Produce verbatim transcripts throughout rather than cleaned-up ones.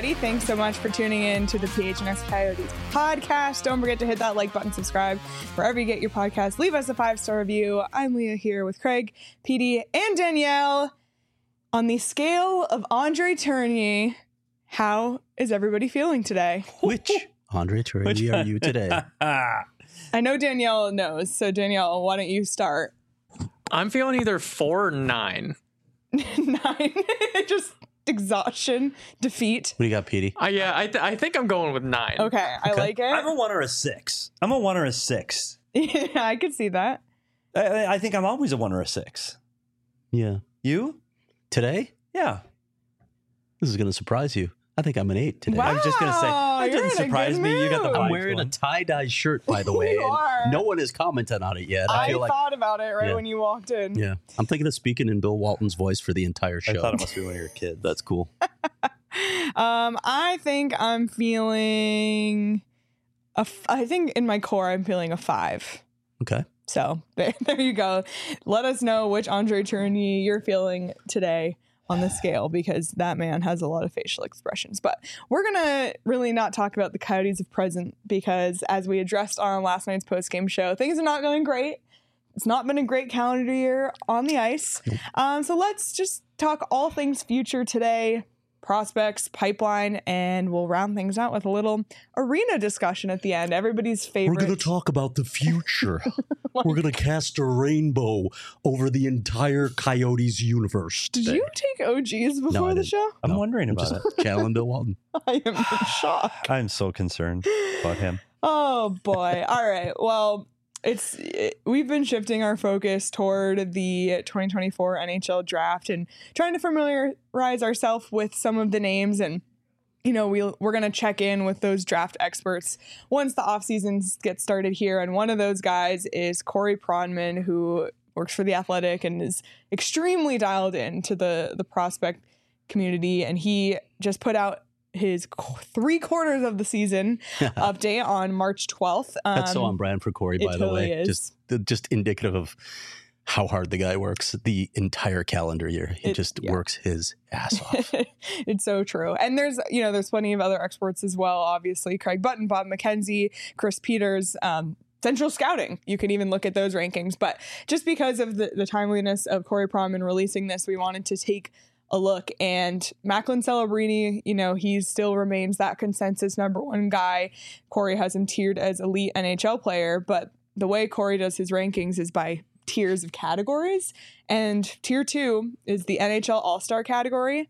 everybody. Thanks so much for tuning in to the P H N X Coyotes podcast. Don't forget to hit that like button, subscribe wherever you get your podcast. Leave us a five-star review. I'm Leah here with Craig, P D, and Danielle. On the scale of Andre Tourigny, how is everybody feeling today? Which Andre Tourigny are you today? I know Danielle knows, so Danielle, why don't you start? I'm feeling either four or nine. Nine. Just exhaustion, defeat. What do you got, Petey? Uh, yeah, I, th- I think I'm going with nine. Okay, I Okay. like it. I'm a one or a six. I'm a one or a six. Yeah, I could see that. I, I think I'm always a one or a six. Yeah. You? Today? Yeah. This is going to surprise you. I think I'm an eight today. Wow. I was just gonna say that you're doesn't in a surprise good me. You got the mood. I'm vibes wearing going. a tie-dye shirt, by the way. You and are. no one has commented on it yet. I, I feel like, thought about it right Yeah. when you walked in. yeah. I'm thinking of speaking in Bill Walton's voice for the entire show. I thought it must be one of your kids. That's cool. Um, I think I'm feeling a. F- I think in my core I'm feeling a five. Okay. So there, there you go. Let us know which Andre Tourigny you're feeling today on the scale, because that man has a lot of facial expressions. But we're gonna really not talk about the Coyotes of present, because as we addressed on last night's post-game show, things are not going great. It's not been a great calendar year on the ice. Um, so let's just talk all things future today, prospects, pipeline, and we'll round things out with a little arena discussion at the end. Everybody's favorite. We're going to talk about the future. We're going to cast a rainbow over the entire Coyotes universe. Did today. you take O Gs before No, I the didn't. show? I'm No, wondering I'm about just it. channeling Bill Walton. I am in shock. I'm so concerned about him. Oh boy. All right. Well, it's it, we've been shifting our focus toward the twenty twenty-four N H L draft and trying to familiarize ourselves with some of the names, and you know, we we're going to check in with those draft experts once the off seasons get started here, and one of those guys is Corey Pronman, who works for The Athletic and is extremely dialed into the the prospect community, and he just put out his qu- three quarters of the season update on March twelfth. Um, That's so on brand for Corey, it by the totally way. is. Just just indicative of how hard the guy works the entire calendar year. He It- just yeah. works his ass off. It's so true. And there's, you know, there's plenty of other experts as well, obviously. Craig Button, Bob McKenzie, Chris Peters, um, Central Scouting. You can even look at those rankings. But just because of the, the timeliness of Corey Pronman releasing this, we wanted to take a look. And Macklin Celebrini, you know, he still remains that consensus number one guy. Corey has him tiered as elite N H L player, but the way Corey does his rankings is by tiers of categories. And tier two is the N H L All-Star category.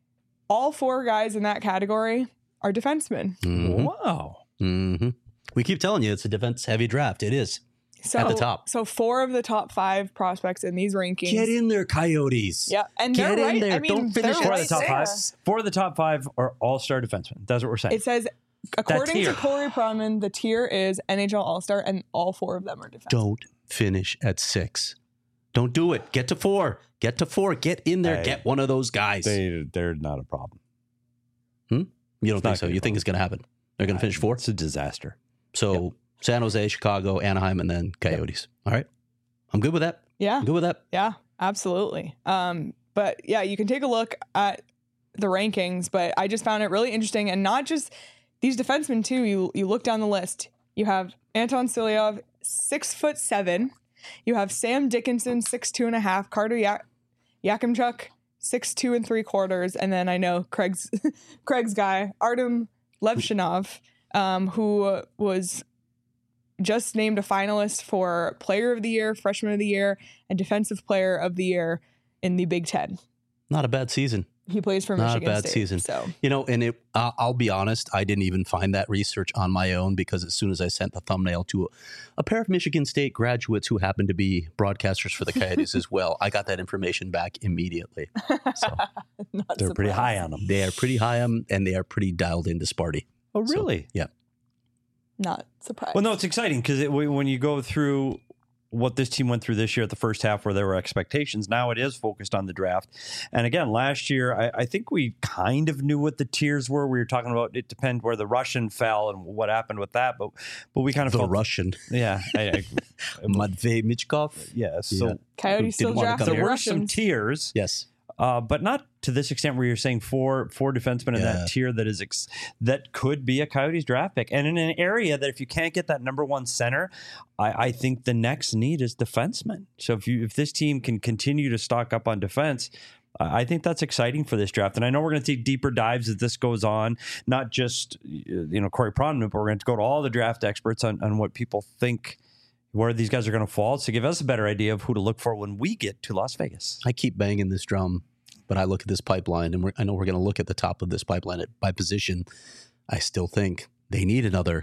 All four guys in that category are defensemen. Mhm. Wow. Mhm. We keep telling you it's a defense-heavy draft. It is. So, At the top. So four of the top five prospects in these rankings. Get in there, Coyotes. Yeah, and Get they're in right. there. I mean, Don't finish they're Four right of the top there. five. Four of the top five are all-star defensemen. That's what we're saying. It says, according to tier. Corey Pronman, the tier is N H L All-Star, and all four of them are defensemen. Don't finish at six. Don't do it. Get to four. Get to four. Get in there. Hey, Get one of those guys. they, they're not a problem. you don't it's think not so? gonna You be think it's going to happen? They're going to finish four? It's a disaster. So San Jose, Chicago, Anaheim, and then Coyotes. All right. I'm good with that. Yeah. I'm good with that. Yeah, absolutely. Um, but yeah, you can take a look at the rankings, but I just found it really interesting. And not just these defensemen too. You you look down the list. You have Anton Silyov, six foot seven. You have Sam Dickinson, six two and a half. Carter ya- Yakimchuk, six two and three quarters. And then I know Craig's Craig's guy, Artem Levshinov, um, who was just named a finalist for Player of the Year, Freshman of the Year, and Defensive Player of the Year in the Big Ten. Not a bad season. He plays for Not a Michigan bad State. season. So You know, and it, uh, I'll be honest, I didn't even find that research on my own, because as soon as I sent the thumbnail to a, a pair of Michigan State graduates who happen to be broadcasters for the Coyotes as well, I got that information back immediately. So not They're pretty surprised. high on them. they are pretty high on, and they are pretty dialed into Sparty. Oh, So, really? yeah. Not surprised. Well, no, it's exciting because it, when you go through what this team went through this year at the first half where there were expectations, now it is focused on the draft. And again, last year, I, I think we kind of knew what the tiers were. We were talking about it depends where the Russian fell and what happened with that. But but we kind of The felt, Russian. Yeah. I, I, Matvey Michkov. yeah. So Coyotes still didn't wanna draft come the there here. were some Russians. tiers. Yes. uh, but not to this extent where you're saying four four defensemen in Yeah. that tier that is ex- that could be a Coyotes draft pick, and in an area that if you can't get that number one center, I, I think the next need is defensemen. So if you if this team can continue to stock up on defense, I think that's exciting for this draft. And I know we're going to take deeper dives as this goes on, not just, you know, Corey Pronman, but we're going to go to all the draft experts on, on what people think, where these guys are going to fall, to give us a better idea of who to look for when we get to Las Vegas. I keep banging this drum, but I look at this pipeline, and we're, I know we're going to look at the top of this pipeline at, by position. I still think they need another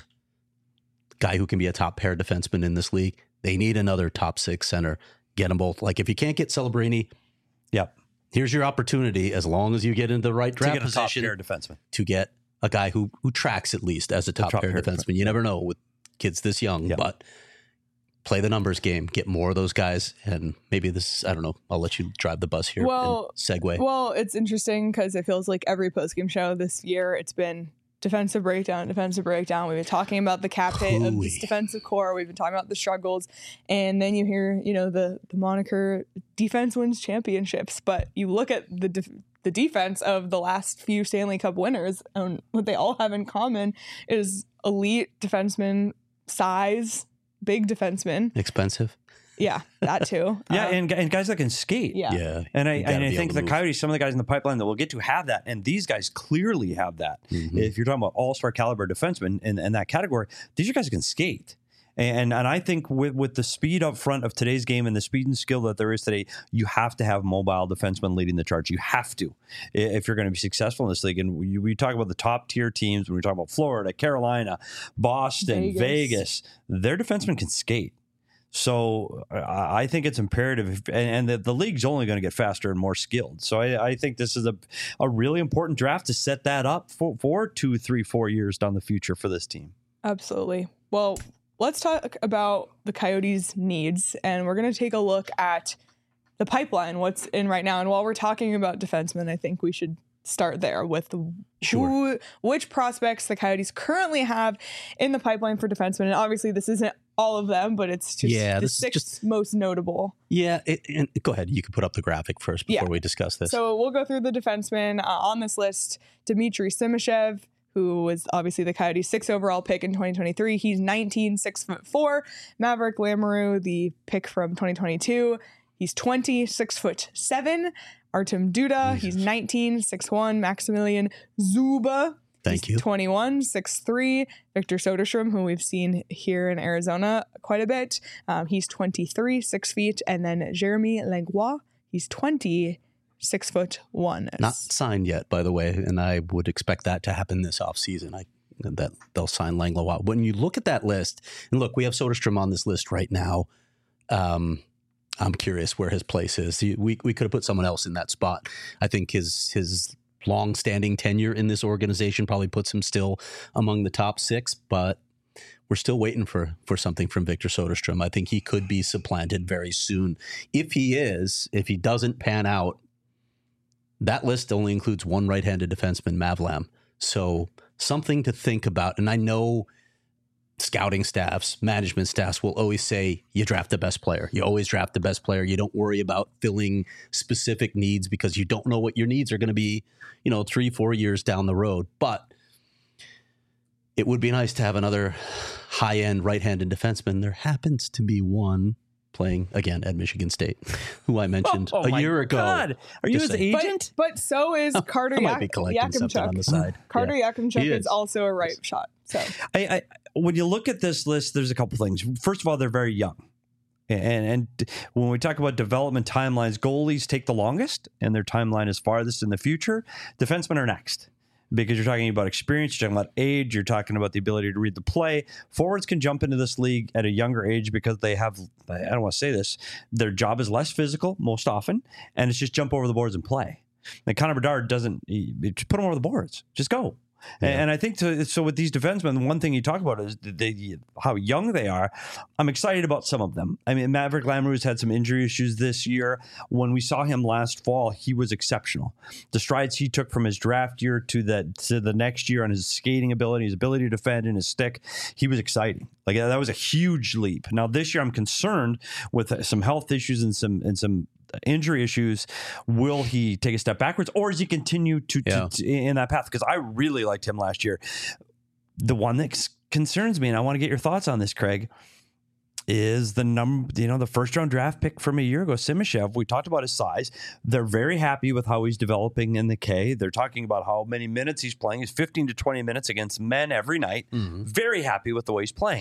guy who can be a top pair defenseman in this league. They need another top six center. Get them both. Like, if you can't get Celebrini, Yep. here's your opportunity, as long as you get into the right To draft get a top position, pair defenseman. to get a guy who who tracks at least as a top, top pair pair defenseman. You never know with kids this young, Yeah. but play the numbers game, get more of those guys, and maybe this, I don't know, I'll let you drive the bus here Well, and segue. Well, it's interesting because it feels like every postgame show this year, it's been defensive breakdown, defensive breakdown. We've been talking about the cap hit of this Hooey. defensive core. We've been talking about the struggles. And then you hear, you know, the, the moniker defense wins championships. But you look at the def- the defense of the last few Stanley Cup winners, and what they all have in common is elite defensemen, size, big defensemen. Expensive. Yeah, that too. Yeah, Um, and, and guys that can skate. yeah. Yeah. And I You gotta and I be think able the to move. Coyotes, some of the guys in the pipeline that we'll get to have that, and these guys clearly have that. Mhm. If you're talking about all-star caliber defensemen in, in that category, these are guys that can skate. And and I think with with the speed up front of today's game and the speed and skill that there is today, you have to have mobile defensemen leading the charge. You have to, i- if you're going to be successful in this league. And we, we talk about the top tier teams when we talk about Florida, Carolina, Boston, Vegas. Vegas. Their defensemen can skate. So I I think it's imperative, if- and, and the, the league's only going to get faster and more skilled. So I, I think this is a, a really important draft to set that up for, for two, three, four years down the future for this team. Absolutely. Well, let's talk about the Coyotes' needs, and we're going to take a look at the pipeline, what's in right now. And while we're talking about defensemen, I think we should start there with Sure. who, which prospects the Coyotes currently have in the pipeline for defensemen. And obviously, this isn't all of them, but it's just Yeah, the this is six just- most notable. Yeah. It, and go ahead. You can put up the graphic first before Yeah. we discuss this. So we'll go through the defensemen uh, on this list. Dmitry Simashev, who was obviously the Coyotes' sixth overall pick in twenty twenty-three. He's nineteen, six foot four. Maverick Lamoureux, the pick from twenty twenty-two. He's twenty, six foot seven. Artem Duda, he's nineteen, six one. Maximilian Zuba, Thank he's you. twenty-one, six three. Victor Soderstrom, who we've seen here in Arizona quite a bit. Um, he's twenty-three, six feet. And then Jeremy Langlois, he's twenty, six foot one. Not signed yet, by the way, and I would expect that to happen this offseason. I that they'll sign Langlois. When you look at that list, and look, we have Soderstrom on this list right now. Um, I'm curious where his place is. He- We we could have put someone else in that spot. I think his his long-standing tenure in this organization probably puts him still among the top six, but we're still waiting for for something from Victor Soderstrom. I think he could be supplanted very soon. If he is, if he doesn't pan out, that list only includes one right-handed defenseman, Mavlam. So something to think about. And I know scouting staffs, management staffs will always say you draft the best player. You always draft the best player. You don't worry about filling specific needs because you don't know what your needs are going to be, you know, three, four years down the road. But it would be nice to have another high-end right-handed defenseman. There happens to be one playing, again, at Michigan State, who I mentioned Oh, a my year ago. God. Are you Just his saying. agent? But, but so is Carter I might be Yak- collecting something on the Yakimchuk. side. Carter Yeah. Yakimchuk He is. is. also a right shot. So I, I when you look at this list, there's a couple things. First of all, they're very young. And, and when we talk about development timelines, goalies take the longest, and their timeline is farthest in the future. Defensemen are next because you're talking about experience, you're talking about age, you're talking about the ability to read the play. Forwards can jump into this league at a younger age because they have, I don't want to say this, their job is less physical most often, and it's just jump over the boards and play. And Connor Bedard doesn't, he, just put him over the boards. Just go. Yeah. And I think to, so with these defensemen, one thing you talk about is they, how young they are. I'm excited about some of them. I mean, Maverick Lamoureux's had some injury issues this year. When we saw him last fall, he was exceptional. The strides he took from his draft year to the to the next year on his skating ability, his ability to defend and his stick, he was exciting. Like that was a huge leap. Now this year, I'm concerned with some health issues and some and some injury issues, will he take a step backwards, or does he continue to, to, Yeah. to in that path? Because I really liked him last year. The one that c- concerns me, and I want to get your thoughts on this, Craig, is the number, you know, the first round draft pick from a year ago, Simashev. We talked about his size. They're very happy with how he's developing in the K. They're talking about how many minutes he's playing. He's fifteen to twenty minutes against men every night. Mm-hmm. Very happy with the way he's playing.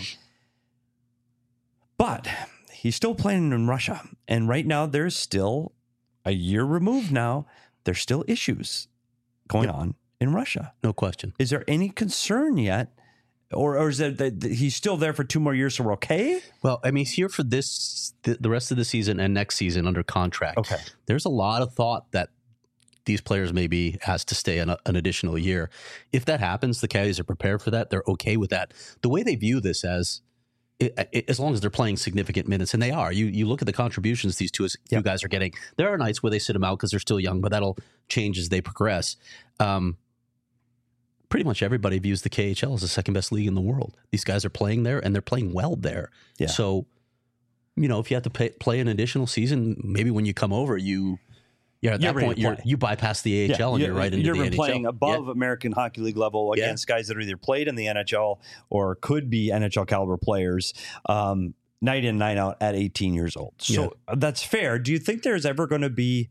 But he's still playing in Russia. And right now, there's still a year removed now. There's still issues going Yep. on in Russia. No question. Is there any concern yet? Or, or is it that that he's still there for two more years, so we're okay? Well, I mean, he's here for this, the, the rest of the season and next season under contract. Okay. There's a lot of thought that these players may be asked to stay an, an additional year. If that happens, the Coyotes are prepared for that. They're okay with that. The way they view this as, it, it, as long as they're playing significant minutes, and they are. You you look at the contributions these two, two Yep. guys are getting. There are nights where they sit them out because they're still young, but that'll change as they progress. Um, pretty much everybody views the K H L as the second best league in the world. These guys are playing there, and they're playing well there. Yeah. So, you know, if you have to pay, play an additional season, maybe when you come over, you, yeah, at You're that ready point, to you're, play. you bypass the A H L and you're, right into you're the N H L. playing above Yeah. American Hockey League level Yeah. against guys that are either played in the N H L or could be N H L caliber players, um, night in, night out at eighteen years old. So that's fair. Do you think there's ever going to be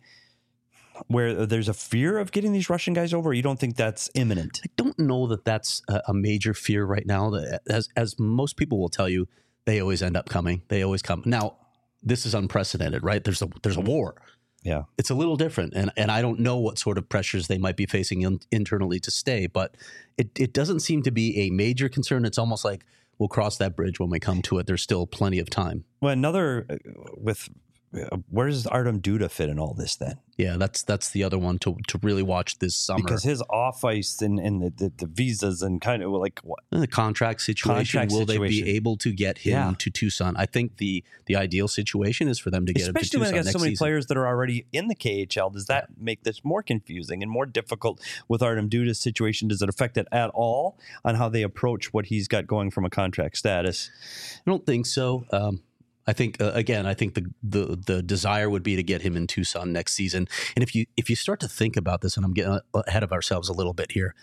where there's a fear of getting these Russian guys over? Or you don't think that's imminent? I don't know that that's a, a major fear right now. That- As as most people will tell you, they always end up coming. They always come. Now, this is unprecedented, right? There's a there's a war. Yeah. It's a little different, and and I don't know what sort of pressures they might be facing in, internally to stay, but it it doesn't seem to be a major concern. It's almost like we'll cross that bridge when we come to it. There's still plenty of time. Well, another uh, with uh, where does Artem Duda fit in all this then? Yeah, that's that's the other one to to really watch this summer. Because his off ice and, and the, the, the visas and kind of like what? And the contract situation, Contract will situation. they be able to get him Yeah. to Tucson? I think the the ideal situation is for them to get him to Especially when Tucson they got next so many season. players that are already in the K H L. Does that make this more confusing and more difficult with Artem Duda's situation? Does it affect it at all on how they approach what he's got going from a contract status? I don't think so. Um, I think uh, again, I think the, the the desire would be to get him in Tucson next season. And if you if you start to think about this, and I'm getting ahead of ourselves a little bit here,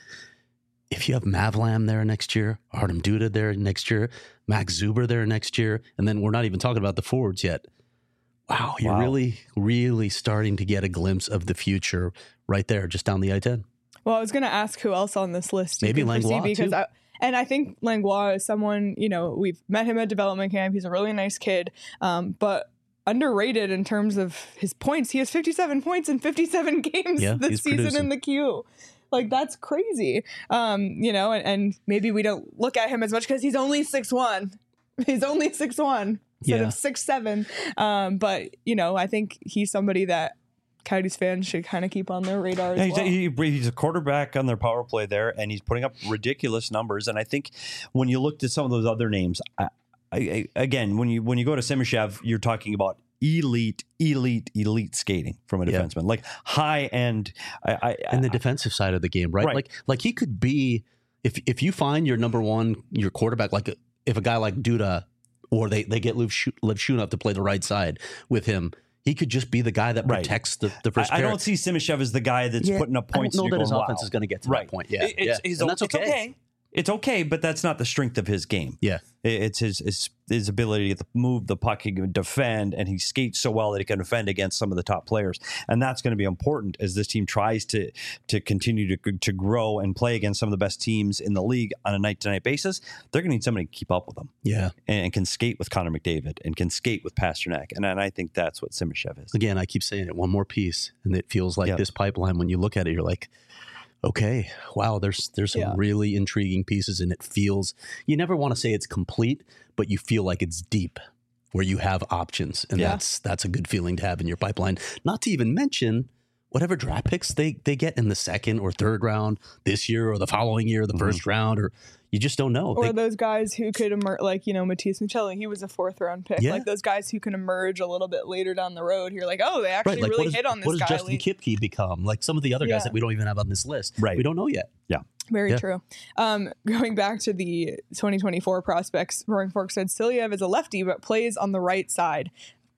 if you have Mavlam there next year, Artem Duda there next year, Max Zuber there next year, and then we're not even talking about the forwards yet. Wow, you're Wow. really really starting to get a glimpse of the future right there, just down the I ten. Well, I was going to ask who else on this list you Maybe can foresee, Langlois, because too. I, and I think Langlois is someone, you know, we've met him at development camp. He's a really nice kid, um, but underrated in terms of his points. He has fifty-seven points in fifty-seven games Yeah, this he's season producing. in the queue. Like, that's crazy. Um, you know, and, and maybe we don't look at him as much because he's only six one. He's only six one instead Yeah. of six seven. Um, but, you know, I think he's somebody that Coyotes fans should kind of keep on their radar Yeah, as he's, well. he, he's a quarterback on their power play there, and he's putting up ridiculous numbers. And I think when you looked at some of those other names, I, I, I, again, when you when you go to Simashev, you're talking about elite, elite, elite skating from a Yeah. defenseman, like high end. I, I, And the defensive side of the game, right? Right. Like like he could be if if you find your number one, your quarterback, like if a guy like Duda, or they they get Liv Shunov to play the right side with him, he could just be the guy that Right. protects the, the first I, I pair. don't see Simashev as the guy that's Yeah, putting up points. I don't know and that you're his going, offense wow. is going to get to Right. that point. Yeah, It- it's, yeah. he's And o- that's it's okay. It's okay, but that's not the strength of his game. Yeah. It- It's his his, his ability to get the, move the puck, he can defend, and he skates so well that he can defend against some of the top players. And that's going to be important as this team tries to to continue to to grow and play against some of the best teams in the league on a night to night basis. They're going to need somebody to keep up with them Yeah. and, and can skate with Connor McDavid and can skate with Pasternak. And, and I think that's what Simashev is. Again, I keep saying it. One more piece, and it feels like Yeah. this pipeline. When you look at it, you're like, okay, wow. There's there's some Yeah. really intriguing pieces, and it feels. You never want to say it's complete, but you feel like it's deep, where you have options, and Yeah. that's that's a good feeling to have in your pipeline. Not to even mention whatever draft picks they they get in the second or third round this year, or the following year, the Mhm. first round, or you just don't know. Or They- those guys who could emerge, like, you know, Matias Michelli, he was a fourth round pick. Yeah. Like those guys who can emerge a little bit later down the road. You're like, oh, they actually right, like really what, is, hit on this what does guy. Justin late. Kipke become? Like some of the other Yeah. guys that we don't even have on this list. Right. We don't know yet. Very Yeah. true. Um, going back to the twenty twenty-four prospects, Roaring Fork said Silyev is a lefty, but plays on the right side.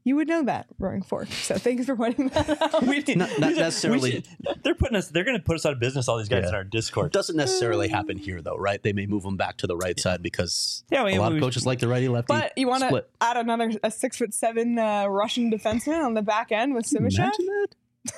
you would know that, Roaring Fork. So thanks for pointing that out. we, Not, not we necessarily. should- they're putting us. They're going to put us out of business. All these guys Yeah. in our Discord. Doesn't necessarily happen here, though, right? They may move them back to the right side because Yeah, I mean, a lot we- of coaches like the righty lefty But you want to split. add another a six foot seven uh, Russian defenseman on the back end with Simashev? Imagine that.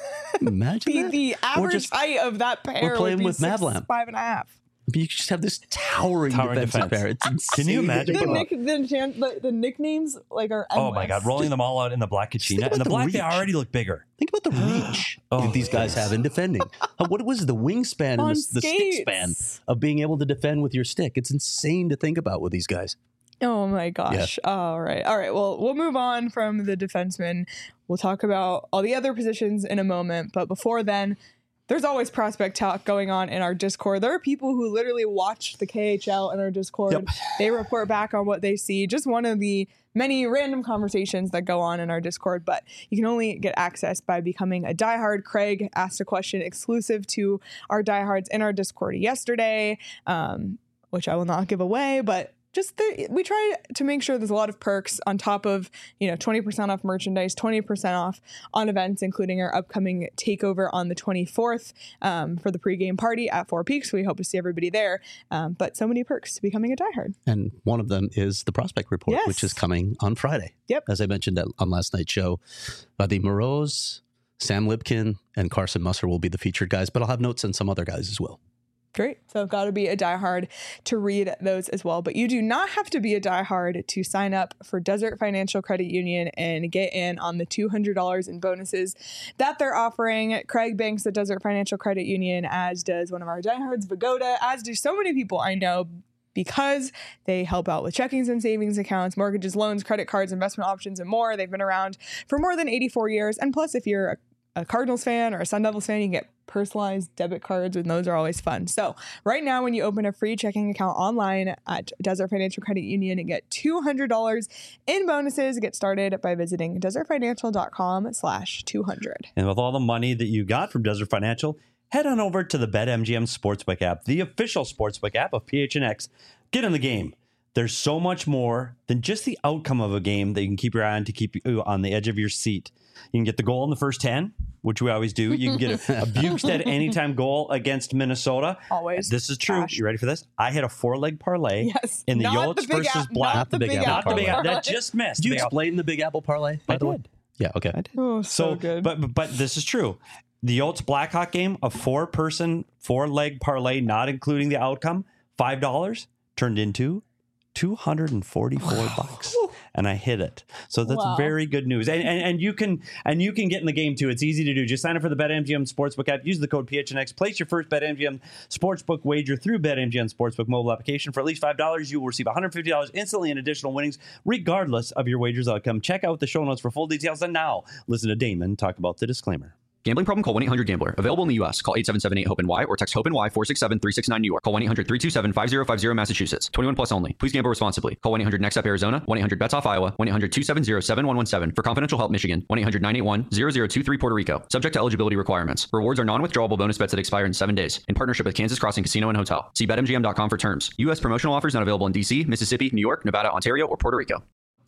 Imagine The, that. the average just- height of that pair or playing would be with six, Mavlam. five and a half. You just have this towering, Towering defensive defense. pair. It's insane. Can you imagine The, to think nick, about. the, chan- the, the nicknames like are Oh my God, endless. rolling them all out in the black think Kachina. about And the the black, they reach. already look bigger. Think about the reach Oh, that these guys yes. have in defending. Uh, What was the wingspan and On the, the stick span skates. of being able to defend with your stick? It's insane to think about with these guys. Oh my gosh. All right. All right. Well, we'll move on from the defensemen. We'll talk about all the other positions in a moment. But before then, there's always prospect talk going on in our Discord. There are people who literally watch the K H L in our Discord. Yep. They report back on what they see. Just one of the many random conversations that go on in our Discord, but you can only get access by becoming a diehard. Craig asked a question exclusive to our diehards in our Discord yesterday, um, which I will not give away, but just the, we try to make sure there's a lot of perks on top of, you know, twenty percent off merchandise, twenty percent off on events, including our upcoming takeover on the twenty-fourth um, for the pregame party at Four Peaks. We hope to see everybody there. Um, but so many perks to becoming a diehard. And one of them is the prospect report, Yes. which is coming on Friday. Yep. As I mentioned at, on last night's show, Vadim Moroz, Sam Lipkin, and Carson Musser will be the featured guys, but I'll have notes on some other guys as well. Great. So got to be a diehard to read those as well. But you do not have to be a diehard to sign up for Desert Financial Credit Union and get in on the two hundred dollars in bonuses that they're offering. Craig banks at Desert Financial Credit Union, as does one of our diehards, Vagoda, as do so many people I know, because they help out with checkings and savings accounts, mortgages, loans, credit cards, investment options, and more. They've been around for more than eighty-four years. And plus, if you're a a Cardinals fan or a Sun Devils fan, you can get personalized debit cards, and those are always fun. So right now, when you open a free checking account online at Desert Financial Credit Union and get two hundred dollars in bonuses, get started by visiting desertfinancial.com slash 200. And with all the money that you got from Desert Financial, head on over to the BetMGM Sportsbook app, the official sportsbook app of P H N X. Get in the game. There's so much more than just the outcome of a game that you can keep your eye on to keep you on the edge of your seat. You can get the goal in the first ten, which we always do. You can get a, a Bukestad anytime goal against Minnesota. Always. This is true. Cash. You ready for this? I hit a four-leg parlay Yes. in the Not Yotes the big versus app- Black. Not the big apple. Not the big parlay. that just missed. Did you Big Apple. explain the Big Apple parlay, by I the way? did. Yeah, okay. I did. Oh, so, So, good. But, but but this is true. The Yotes Blackhawk game, a four-person, four-leg parlay, not including the outcome, five dollars turned into two hundred and forty-four bucks, and I hit it. So that's Wow. very good news. And, and and you can and you can get in the game too. It's easy to do. Just sign up for the BetMGM Sportsbook app. Use the code P H N X. Place your first BetMGM Sportsbook wager through BetMGM Sportsbook mobile application for at least five dollars. You will receive one hundred fifty dollars instantly in additional winnings, regardless of your wager's outcome. Check out the show notes for full details. And now, listen to Damon talk about the disclaimer. Gambling problem? Call one eight hundred gambler. Available in the U S. Call eight seven seven eight hope N Y or text hope N Y four six seven three six nine New York. Call one eight hundred three two seven five zero five zero Massachusetts. twenty-one plus only. Please gamble responsibly. Call one eight hundred next up Arizona. one eight hundred bets off Iowa. one eight hundred two seven zero seven one one seven. For confidential help Michigan. one eight hundred nine eight one zero zero two three Puerto Rico. Subject to eligibility requirements. Rewards are non-withdrawable bonus bets that expire in seven days. In partnership with Kansas Crossing Casino and Hotel. See bet M G M dot com for terms. U S promotional offers not available in D C, Mississippi, New York, Nevada, Ontario, or Puerto Rico.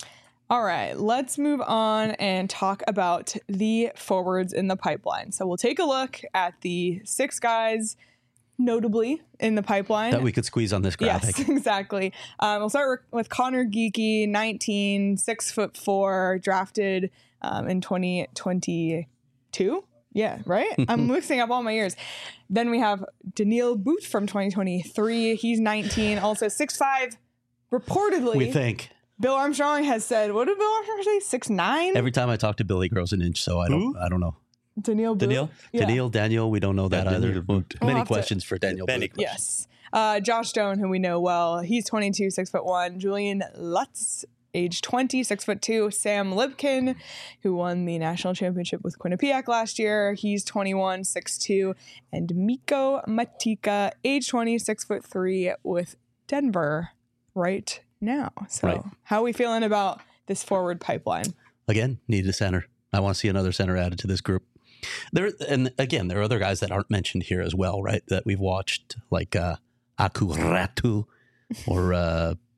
All right, let's move on and talk about the forwards in the pipeline. So we'll take a look at the six guys notably in the pipeline. That we could squeeze on this graphic. Yes, exactly. Um, we'll start with Connor Geeky, nineteen, six foot four, drafted um, in twenty twenty-two. Yeah, right? I'm mixing up all my years. Then we have Daniil Booth from twenty twenty-three. He's nineteen, also six five, reportedly. We think. Bill Armstrong has said, what did Bill Armstrong say? six nine? Every time I talk to Billy, he grows an inch, so I don't Who? I don't know. Daniil Booth. Daniil? Yeah. Daniil, Daniel, we don't know that Yeah, either. Daniil Booth. We'll Many have to- questions for Daniel Many Booth. Yes. Uh, Josh Stone, who we know well, he's twenty-two, six foot one. Julian Lutz, age twenty, six foot two. Sam Lipkin, who won the national championship with Quinnipiac last year, he's twenty-one, six two. And Mikko Matika, age twenty, six foot three, with Denver right now. So, Right. how are we feeling about this forward pipeline? Again, need a center. I want to see another center added to this group. There and again, there are other guys that aren't mentioned here as well, right? That we've watched, like uh, Aku Ratu or uh,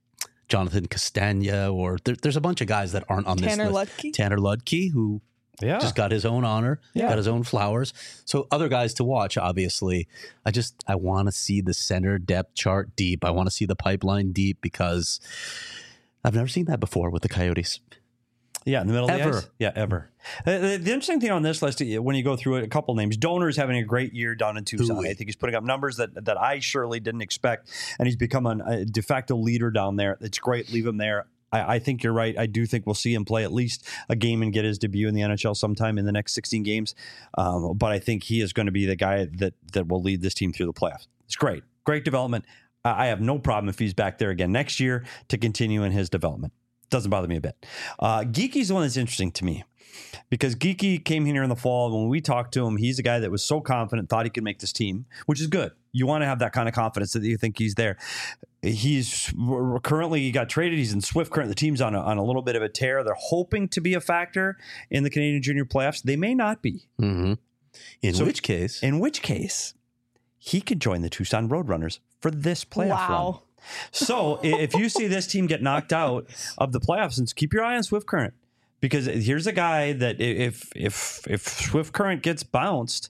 Jonathan Castagna, or there, there's a bunch of guys that aren't on Tanner this list. Lutke? Tanner Ludke, who Yeah. just got his own honor, Yeah. got his own flowers. So other guys to watch, obviously. I just, I want to see the center depth chart deep. I want to see the pipeline deep because I've never seen that before with the Coyotes. Yeah, in the middle of Ever. the ice. Yeah, ever. Uh, the, the interesting thing on this list, uh, when you go through it, a couple names. Donor is having a great year down in Tucson. Ooh. I think he's putting up numbers that that I surely didn't expect, and he's become an, a de facto leader down there. It's great. Leave him there. I, I think you're right. I do think we'll see him play at least a game and get his debut in the N H L sometime in the next sixteen games. Um, but I think he is going to be the guy that that will lead this team through the playoffs. It's great. Great development. I I have no problem if he's back there again next year to continue in his development. Doesn't bother me a bit. Uh, Geeky's the one that's interesting to me because Geeky came here in the fall. When we talked to him, he's a guy that was so confident, thought he could make this team, which is good. You want to have that kind of confidence that you think he's there. He's currently, he got traded. He's in Swift current. The team's on a, on a little bit of a tear. They're hoping to be a factor in the Canadian Junior playoffs. They may not be. Mm-hmm. In So- which case, In which case, he could join the Tucson Roadrunners for this playoff run. Wow. So i- if you see this team get knocked out of the playoffs, and keep your eye on Swift Current, because here's a guy that i- if if if Swift Current gets bounced,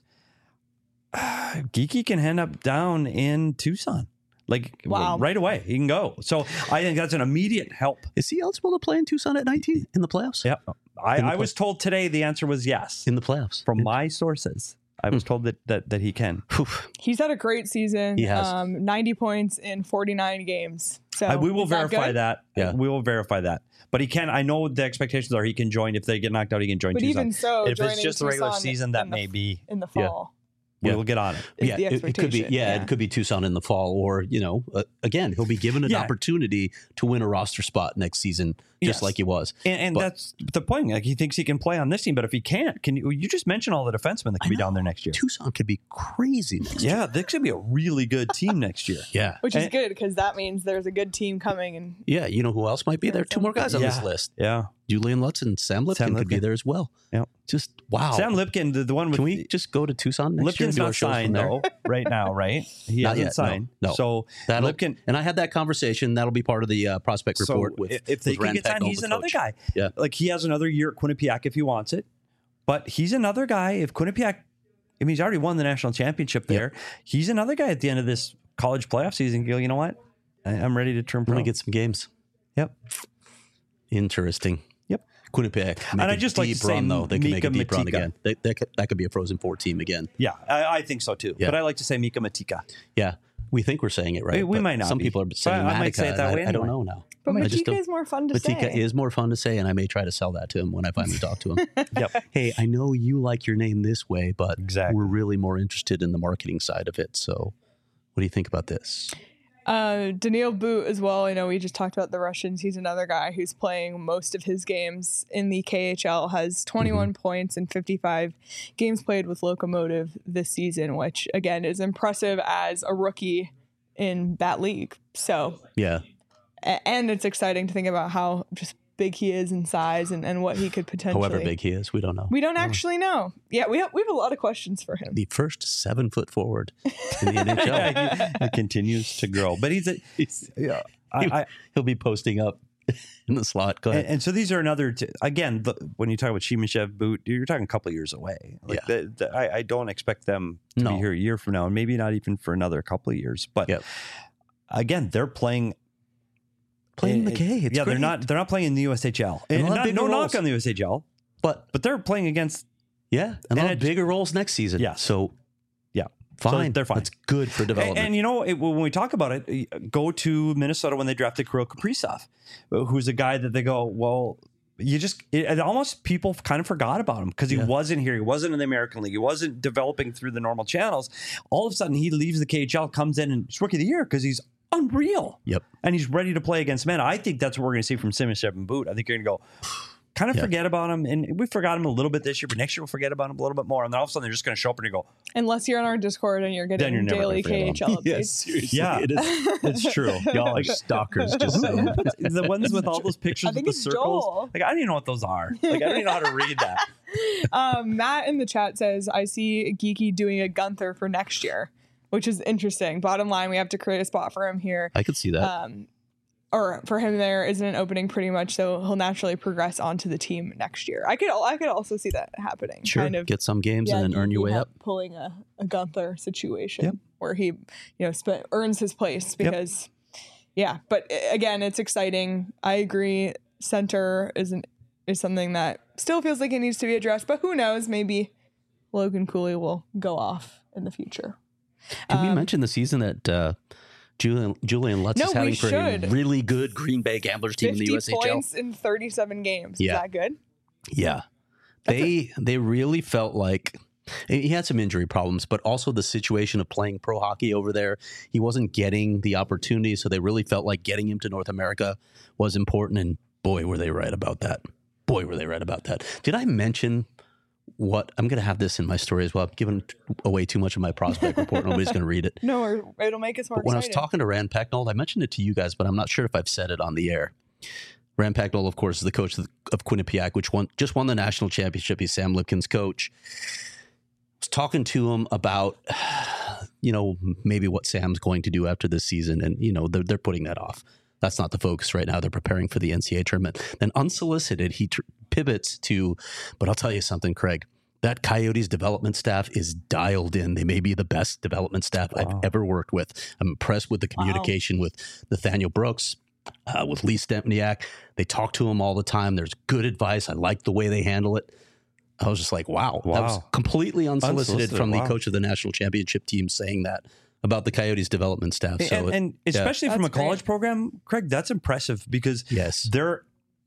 uh, Geeky can end up down in Tucson, like Wow. right away. He can go. So I think that's an immediate help. is he eligible to play in Tucson at nineteen in the playoffs? Yeah, I, In the I was told today the answer was yes In the playoffs. from my sources. I was told that that that he can. Phew. He's had a great season. He has. Um, ninety points in forty-nine games. So I, we will is that verify good? that. Yeah. We will verify that. But he can. I know the expectations are he can join if they get knocked out. He can join. But Tucson. even so, if it's joining just the regular Tucson season, that in the- may be. in the Yeah. fall. We Yeah. will get on it. Is Yeah, the it, it could be. expectation. Yeah, Yeah. it could be Tucson in the fall, or you know, uh, again, he'll be given an Yeah. opportunity to win a roster spot next season, just Yes. like he was. And, and But- that's the point. Like he thinks he can play on this team, but if he can't, can you? You just mentioned all the defensemen that could I be down know. there next year. Tucson could be crazy next year. Yeah, this could be a really good team next year. Yeah, Which is And- good because that means there's a good team coming. And yeah. You know who else might be there? Two more guys on this Yeah. list. Yeah, Julian Lutz and Sam Lipkin Sam could be Lipkin. there as well. Yep. Just wow. Sam Lipkin, the, the one with Can we just go to Tucson next year and Lipkin's do our not shows from signed there? though right now, right? He Not hasn't yet, no, signed. no. So That'll, Lipkin. and I had that conversation. That'll be part of the uh, prospect So report with if they with can Rand get signed, Pecknold, he's the another coach. guy. Yeah. Like he has another year at Quinnipiac if he wants it, but he's another guy. If Quinnipiac, I mean, he's already won the national championship there. He's another guy at the end of this college playoff season. You go, you know what? I, I'm ready to turn I'm pro. gonna get some games. Yep. Interesting. Yep. Quinnipiac. And make I a just like to deep say run, though. They can make a Mika deep run Matika. again. They, they could, that could be a Frozen Four team again. Yeah, I, I think so too. Yeah. But I like to say Mika Matika. Yeah, we think we're saying it right. We- we but might not Some be. people are But saying I might Matica, say it that and way I, I don't anyway. know now. but I just Matika don't- is more fun to Matika say. is more fun to say, and I may try to sell that to him when I finally talk to him. Yep. Hey, I know you like your name this way, but Exactly. we're really more interested in the marketing side of it. So, what do you think about this? Uh, Daniil Boot as well. I know we just talked about the Russians. He's another guy who's playing most of his games in the K H L, has twenty-one points in fifty-five games played with Lokomotiv this season, which again is impressive as a rookie in that league. So, Yeah, a- and it's exciting to think about how just big he is in size and, and what he could potentially. however big he is, we don't know. We don't actually know. Yeah, we have, we have a lot of questions for him. the first seven foot forward in the N H L. Yeah, he, he continues to grow. But he's a He's- yeah. I, I, He'll be posting up in the slot. Go ahead. and, and so these are another t- again the, when you talk about Shimashev, Boot, you're talking a couple of years away. Like Yeah. the, the, I, I don't expect them to No. be here a year from now, and maybe not even for another couple of years. But Yep. again, they're playing Playing the it- K. It's yeah, they're great. not they're not playing in the U S H L. And And a lot not, bigger no roles. knock on the U S H L, But but they're playing against yeah, and, And on it- bigger roles next season. Yeah. So yeah. fine. they're fine. That's good for And, development. and you know, it, when we talk about it, go to Minnesota when they drafted Kirill Kaprizov, who's a guy that they go, well, you just it, it almost people kind of forgot about him because he Yeah. wasn't here. He wasn't in the American League. He wasn't developing through the normal channels. All of a sudden, he leaves the K H L, comes in, and it's rookie of the year because he's unreal. Yep. And he's ready to play against men. I think that's what we're going to see from Simashev and Boot. I think you're going to go kind of Yeah. forget about him. And we forgot him a little bit this year, but next year we'll forget about him a little bit more. And then all of a sudden, they're just going to show up and you go, Unless you're on our Discord and you're Then getting you're never daily gonna forget K H L updates. yes, seriously. Yeah. It is. it's true. Y'all are stalkers. Just saying. The ones with all those pictures I with think the it's circles. Joel. Like I don't even know what those are. Like I don't even know how to read that. um, Matt in the chat says, I see Geeky doing a Gunther for next year, which is interesting. Bottom line, we have to create a spot for him here. I could see that. Um, or for him there isn't an opening pretty much, so he'll naturally progress onto the team next year. I could I could also see that happening. Sure, kind of, get some games yeah, and then earn your way ha- up. Pulling a, a Gunther situation Yep. where he, you know, sp- earns his place because, yeah. But uh, again, it's exciting. I agree. Center isn't is something that still feels like it needs to be addressed, but who knows? Maybe Logan Cooley will go off in the future. Can we Um, mention the season that uh, Julian Julian Lutz No, is we having for should. a really good Green Bay Gamblers team in the fifty U S H L? points in thirty-seven games. Yeah. Is that good? Yeah, they they really felt like he had some injury problems, but also the situation of playing pro hockey over there. He wasn't getting the opportunity, so they really felt like getting him to North America was important. And boy, were they right about that. Boy, were they right about that. Did I mention what I'm going to have this in my story as well? I'm giving away too much of my prospect report. Nobody's going to read it. No, or it'll make us more But when excited. I was talking to Rand Pecknold, I mentioned it to you guys, but I'm not sure if I've said it on the air. Rand Pecknold, of course, is the coach of, of Quinnipiac, which won, just won the national championship. He's Sam Lipkin's coach. I was talking to him about, you know, maybe what Sam's going to do after this season. And, you know, they're, they're putting that off. That's not the focus right now. They're preparing for the N C A A tournament. Then unsolicited, he tr- pivots to, but I'll tell you something, Craig. That Coyotes development staff is dialed in. They may be the best development staff Wow. I've ever worked with. I'm impressed with the communication with Nathaniel Brooks, uh, with Lee Stempniak. They talk to him all the time. There's good advice. I like the way they handle it. I was just like, wow. Wow. That was completely unsolicited, Unsolicited, from wow. the coach of the national championship team saying that about the Coyotes development staff. So and, it- and yeah. especially from a That's great. college program, Craig, that's impressive because Yes. there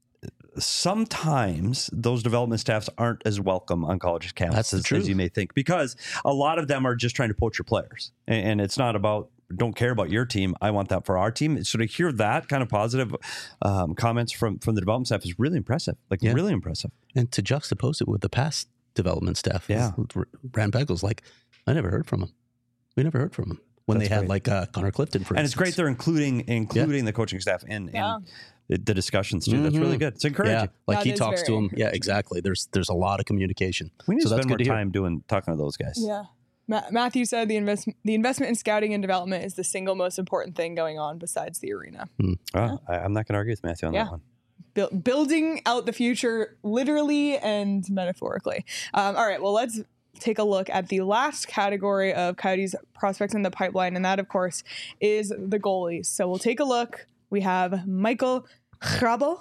sometimes those development staffs aren't as welcome on college campuses That's the as truth. you may think, because a lot of them are just trying to poach your players, and, and it's not about don't care about your team. I want that for our team. So to hear that kind of positive um, comments from from the development staff is really impressive. Like Yeah. really impressive. And to juxtapose it with the past development staff, Yeah. Rand Pecknold's like, I never heard from him. We never heard from him when That's they had great. like uh, Connor Clifton, for And it's instance. great they're including including the coaching staff in, Yeah. in the, the discussions too. That's really Mhm. good. It's encouraging. Yeah, like That he is talks to very him. Yeah, encouraging. exactly. There's there's a lot of communication. We need So to that's spend more good to hear. time doing talking to those guys. Yeah. Ma- Matthew said the invest the investment in scouting and development is the single most important thing going on besides the arena. Well, I, I'm not going to argue with Matthew on Yeah. that one. Buil- building out the future literally and metaphorically. Um, all right, well, let's take a look at the last category of Coyotes prospects in the pipeline, and that, of course, is the goalies. So we'll take a look. We have Michael Hrabel.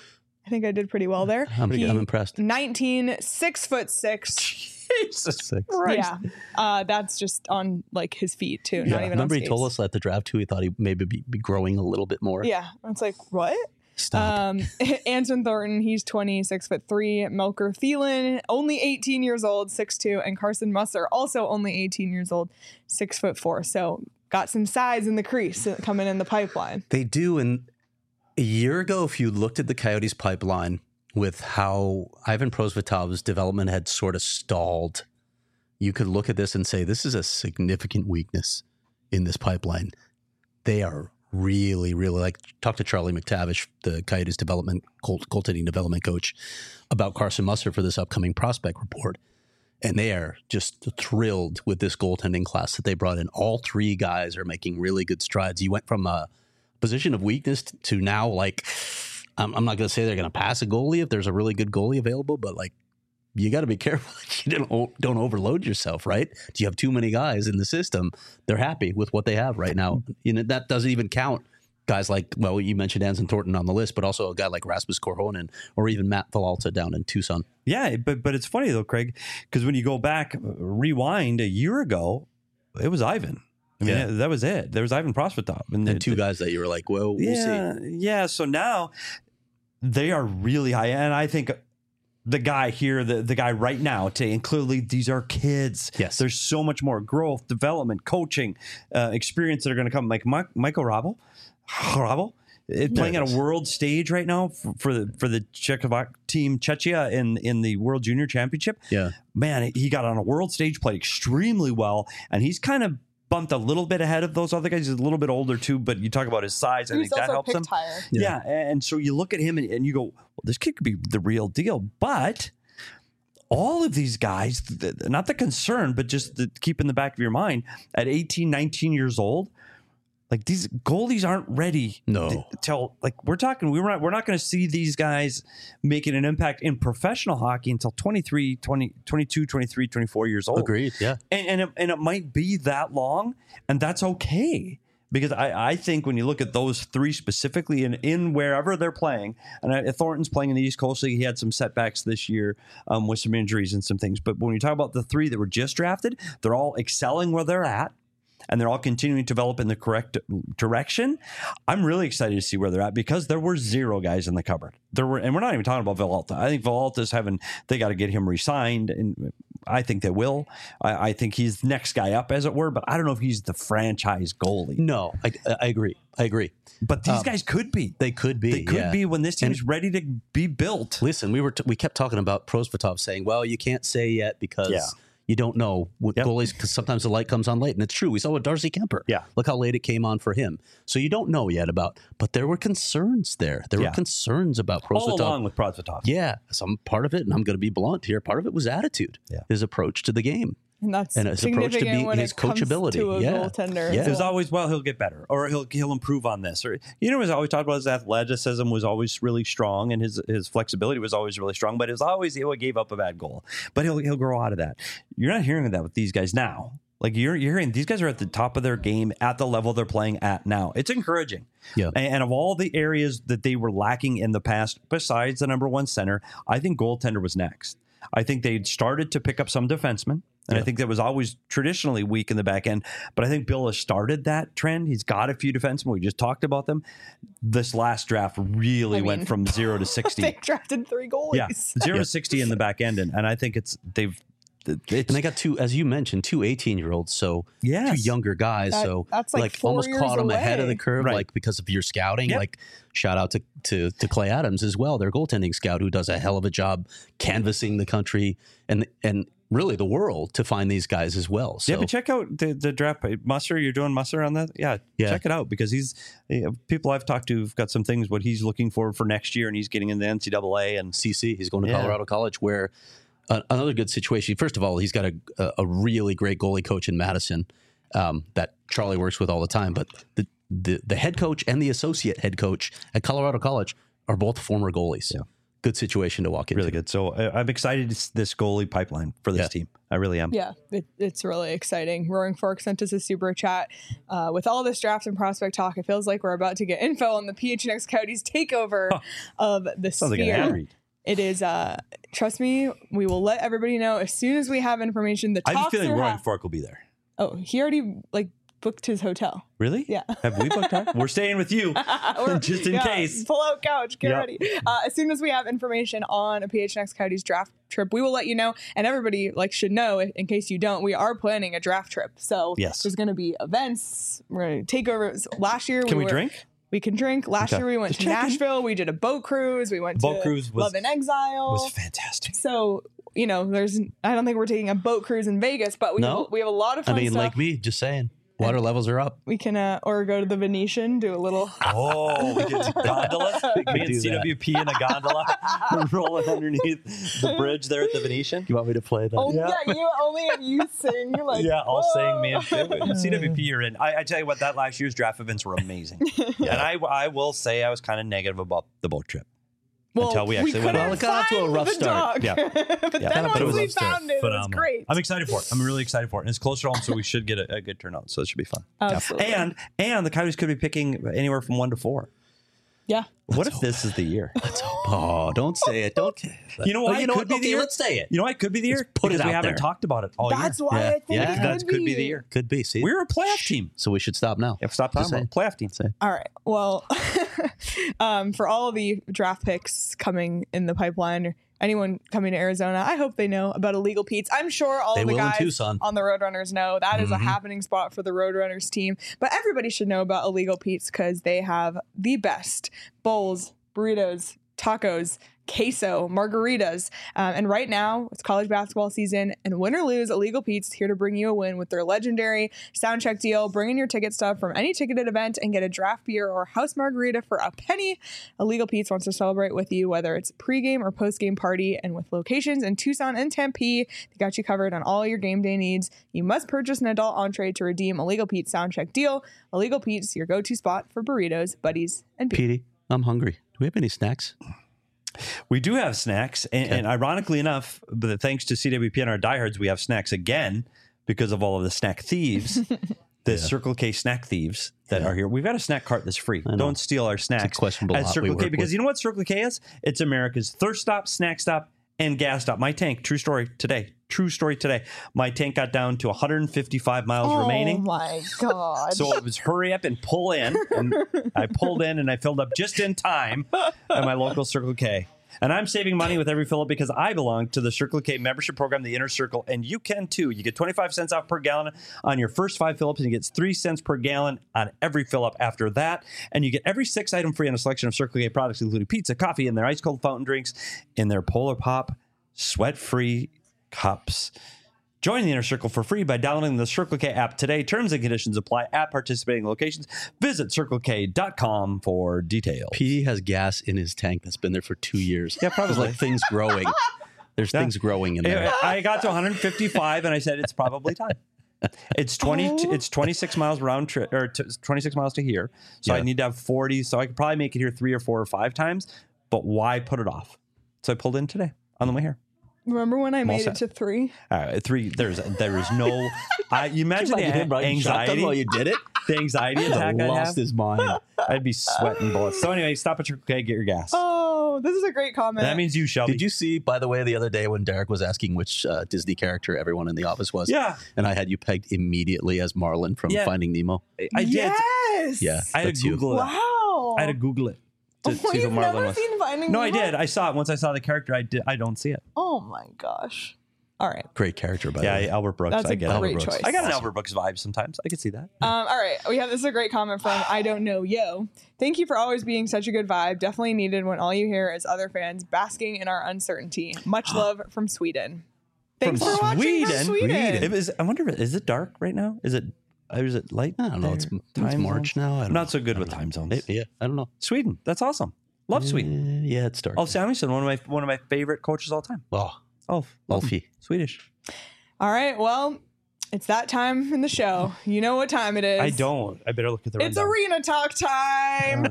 I think I did pretty well there. I'm, He- I'm impressed. nineteen, six foot six. Jesus Six. Yeah, uh, that's just on like his feet too. Not Yeah. even. Remember on he told skates. us at the draft too. He thought he maybe be, be growing a little bit more. Yeah, it's like what? Stop. Um, Anton Thornton, he's twenty-six foot three. Melker Thielen, only eighteen years old, six two, and Carson Musser, also only eighteen years old, six foot four. So got some size in the crease coming in the pipeline. They do. And a year ago, if you looked at the Coyotes pipeline with how Ivan Prosvetov's development had sort of stalled, you could look at this and say, this is a significant weakness in this pipeline. They are really, really like, talk to Charlie McTavish, the Coyotes development, goal- goaltending development coach, about Carson Musser for this upcoming prospect report. And they are just thrilled with this goaltending class that they brought in. All three guys are making really good strides. You went from a position of weakness to now, like, I'm, I'm not going to say they're going to pass a goalie if there's a really good goalie available, but like, you got to be careful that you don't, don't overload yourself, right? Do you have too many guys in the system? They're happy with what they have right now. You know, that doesn't even count guys like, well, you mentioned Anson Thornton on the list, but also a guy like Rasmus Korhonen or even Matt Villalta down in Tucson. Yeah, but but it's funny though, Craig, because when you go back, rewind a year ago, it was Ivan. I mean, Yeah. that was it. There was Ivan Prosvetov, And the- two the- guys that you were like, well, we'll yeah, see. yeah. So now they are really high, and I think the guy here, the the guy right now, to and clearly these are kids. Yes. There's so much more growth, development, coaching, uh, experience that are going to come. Like Mike, Michael Rabel, Rabel. uh, Playing it at is. a world stage right now for, for the for the Czechoslovak team Czechia in in the World Junior Championship. Yeah. Man, he got on a world stage, played extremely well, and he's kind of bumped a little bit ahead of those other guys. He's a little bit older too, but you talk about his size, I He's think that also helps him. picked higher. Yeah. and so you look at him and, and you go, well, this kid could be the real deal. But all of these guys, th- not the concern, but just the, keep in the back of your mind, at eighteen, nineteen years old, Like these goalies aren't ready. No. to, till like we're talking, we we're not, we're not going to see these guys making an impact in professional hockey until twenty-three, twenty, twenty-two, twenty-three, twenty-four years old. Agreed. Yeah. And and it, and it might be that long, and that's okay. Because I, I think when you look at those three specifically in, in wherever they're playing, and I, Thornton's playing in the East Coast League, he had some setbacks this year um, with some injuries and some things. But when you talk about the three that were just drafted, they're all excelling where they're at, and they're all continuing to develop in the correct direction. I'm really excited to see where they're at because there were zero guys in the cupboard. There were, and we're not even talking about Villalta. I think Villalta's having, they got to get him re-signed, and I think they will. I, I think he's the next guy up, as it were, but I don't know if he's the franchise goalie. No, I, I agree. I agree. But these Um, guys could be. They could be. They could yeah. be when this team And- is ready to be built. Listen, we were t- we kept talking about Prosvetov saying, "Well, you can't say yet because Yeah. you don't know what Yep. goalies because sometimes the light comes on late." And it's true. We saw with Darcy Kemper. Yeah. Look how late it came on for him. So you don't know yet about. But there were concerns there. There Yeah. were concerns about Prosvetov. All along with Prosvetov. Yeah, some part of it, and I'm going to be blunt here. Part of it was attitude. Yeah. His approach to the game. And that's And his approach to significant be- when his it comes coachability. to a Yeah. goaltender. Yeah. as It was well. always, well, he'll get better, or he'll he'll improve on this, or you know, he was always talked about his athleticism was always really strong, and his his flexibility was always really strong. But it was always he gave up a bad goal, but he'll he'll grow out of that. You're not hearing that with these guys now. Like you're you're hearing these guys are at the top of their game at the level they're playing at now. It's encouraging. Yeah. And, and of all the areas that they were lacking in the past, besides the number one center, I think goaltender was next. I think they started to pick up some defensemen. And Yeah. I think that was always traditionally weak in the back end. But I think Bill has started that trend. He's got a few defensemen. We just talked about them. This last draft really I mean, went from zero to sixty. They drafted three goalies. Yeah, zero to sixty in the back end. And, and I think it's, they've, it's, And they got two, as you mentioned, two eighteen-year-olds. So Yes. two younger guys. That- so that's like four almost years caught them ahead of the away. curve, Right. like because of your scouting. Yep. Like shout out to, to to Clay Adams as well, their goaltending scout, who does a hell of a job canvassing the country and and really the world to find these guys as well. So yeah, but check out the, the draft page. Musser, you're doing Musser on that? Yeah, Yeah. check it out because he's you know, people I've talked to have got some things what he's looking for for next year, and he's getting in the N C double A and C C, he's going to Yeah. Colorado College, where uh, another good situation. First of all, he's got a a, a really great goalie coach in Madison um, that Charlie works with all the time. But the, the the head coach and the associate head coach at Colorado College are both former goalies. Yeah. Good situation to walk into. really good. So uh, I'm excited to see this goalie pipeline for this Yeah. team. I really am. Yeah, it, it's really exciting. Roaring Fork sent us a super chat. Uh, with all this draft and prospect talk, it feels like we're about to get info on the P H N X Coyotes takeover Huh. of the Sounds like an ad Sphere. read. It is, uh, trust me, we will let everybody know as soon as we have information. The I have a talks feeling are Roaring ha- Fork will be there. Oh, he already like booked his hotel. Really? Yeah. Have we booked our? We're staying with you. Or- Just in yeah, case. Pull out couch, get Yep. ready. Uh, as soon as we have information on a P H N X Coyotes draft trip, we will let you know. And everybody like should know, in in case you don't, we are planning a draft trip. So Yes. there's going to be events. We're going to take over. Last year, Can we were, drink? We can drink. Last Okay. year we went Just to checking. Nashville. We did a boat cruise. We went Boat to cruise was- Love and Exile. Was fantastic. So you know, there's. I don't think we're taking a boat cruise in Vegas, but we No? have, we have a lot of I fun mean, stuff. like me, just saying, water levels are up. we can uh, or go to the Venetian, do a little. Oh, we did gondolas. We could Me do and C W P in a gondola rolling underneath the bridge there at the Venetian. You want me to play that? Oh yeah, Yeah. you only if you sing like Yeah, all whoa. saying me and C W P you're in. I, I tell you what, that last year's draft events were amazing. And I, I will say I was kind of negative about the boat trip. Well, until we actually went couldn't on. Well, it got off to a find rough the start. dog. Yeah. but Yeah. then But it once was we a rough start. found it, it was great. I'm excited for it. I'm really excited for it. And it's closer to home, so we should get a, a good turnout. So it should be fun. Absolutely. And and the Coyotes could be picking anywhere from one to four. Yeah. What if this is the year? Oh, don't say it. Don't. You know Oh, why you it know could what? be the Okay, year? let's say it. You know why it could be the year? Let's put it because we out haven't there. talked about it all That's year. why Yeah. I think Yeah. it could That could be the year. Could be. See, We're a playoff team. so we should stop now. Yeah, stop Just talking about say. playoff team. Say. All right. Well, um, for all of the draft picks coming in the pipeline, or anyone coming to Arizona, I hope they know about Illegal Pete's. I'm sure all They of the will in guys Tucson. on the Roadrunners know that is a Mhm. happening spot for the Roadrunners team. But everybody should know about Illegal Pete's because they have the best bowls, burritos, tacos, queso, margaritas. Um, and right now, it's college basketball season, and win or lose, Illegal Pete's here to bring you a win with their legendary sound check deal. Bring in your ticket stub from any ticketed event and get a draft beer or house margarita for a penny. Illegal Pete's wants to celebrate with you, whether it's pregame or postgame party, and with locations in Tucson and Tempe, they got you covered on all your game day needs. You must purchase an adult entree to redeem Illegal Pete's sound check deal. Illegal Pete's, your go-to spot for burritos, buddies, and beer. Petey, I'm hungry. Do we have any snacks? We do have snacks, and, Okay. and ironically enough, but thanks to C W P and our diehards, we have snacks again because of all of the snack thieves, the Yeah. Circle K snack thieves that Yeah. are here. We've got a snack cart that's free. I know. Don't steal our snacks. It's a questionable at lot we Circle K work because with. you know what Circle K is? It's America's thirst stop, snack stop, and gas stop. My tank, true story today. True story today. My tank got down to one hundred fifty-five miles Oh remaining. my God. So it was hurry up and pull in. And I pulled in and I filled up just in time at my local Circle K. And I'm saving money with every fill up because I belong to the Circle K membership program, the Inner Circle, and you can too. You get twenty-five cents off per gallon on your first five fill ups, and you get three cents per gallon on every fill up after that. And you get every six item free on a selection of Circle K products, including pizza, coffee, and their ice cold fountain drinks in their Polar Pop sweat free cups. Join the Inner Circle for free by downloading the Circle K app today. Terms and conditions apply at participating locations. Visit circle k dot com for details. Petey has gas in his tank that's been there for two years. Yeah, probably. There's like things growing. There's Yeah. things growing in Anyway, there. I got to one hundred fifty-five and I said it's probably time. It's twenty. Oh. It's twenty-six miles round trip, or t- twenty-six miles to here. So I Yeah. need to have forty. So I could probably make it here three or four or five times. But why put it off? So I pulled in today on the way here. Remember when I all made set. it to three? Uh, three. There's there is no. I, you imagine the Imagine him a- riding shotgun anxiety. while you did it. The anxiety He'd attack have I lost have. his mind. I'd be sweating bullets. So anyway, stop at Circle K, get your gas. Oh, this is a great comment. That means you, Shelby. Did you see, by the way, the other day when Derek was asking which uh, Disney character everyone in the office was? Yeah, And I had you pegged immediately as Marlin from Yeah. Finding Nemo. I did. Yes. Yeah. I had That's to you. Google it. Wow. I had to Google it to Oh, see you've who Marlin never was. seen Finding No, I Nemo? did. I saw it once. I saw the character. I did. I don't see it. Oh my gosh. All right. Great character, by Yeah, the way. Albert Brooks. That's I a get it. great Albert Brooks. choice. I got an Awesome. Albert Brooks vibe sometimes. I can see that. Um, all right. We have this is a great comment from I Don't Know Yo. Thank you for always being such a good vibe. Definitely needed when all you hear is other fans basking in our uncertainty. Much love from Sweden. Thanks From for watching Sweden? from Sweden. Sweden. It was, I wonder, if, is it dark right now? Is it? Or is it light? I don't know. It's, there? it's Time March zones? now. I don't I'm not know. so good I with don't time know. zones. It- yeah, I don't know. Sweden. That's awesome. Love Sweden. Uh, yeah, it's dark. Ulf Samuelsson, one of my one of my favorite coaches of all time. Oh, Ulf. Love him. Ulfie. Swedish. All right. Well, it's that time in the show. You know what time it is. I don't. I better look at the It's rundown. arena talk time.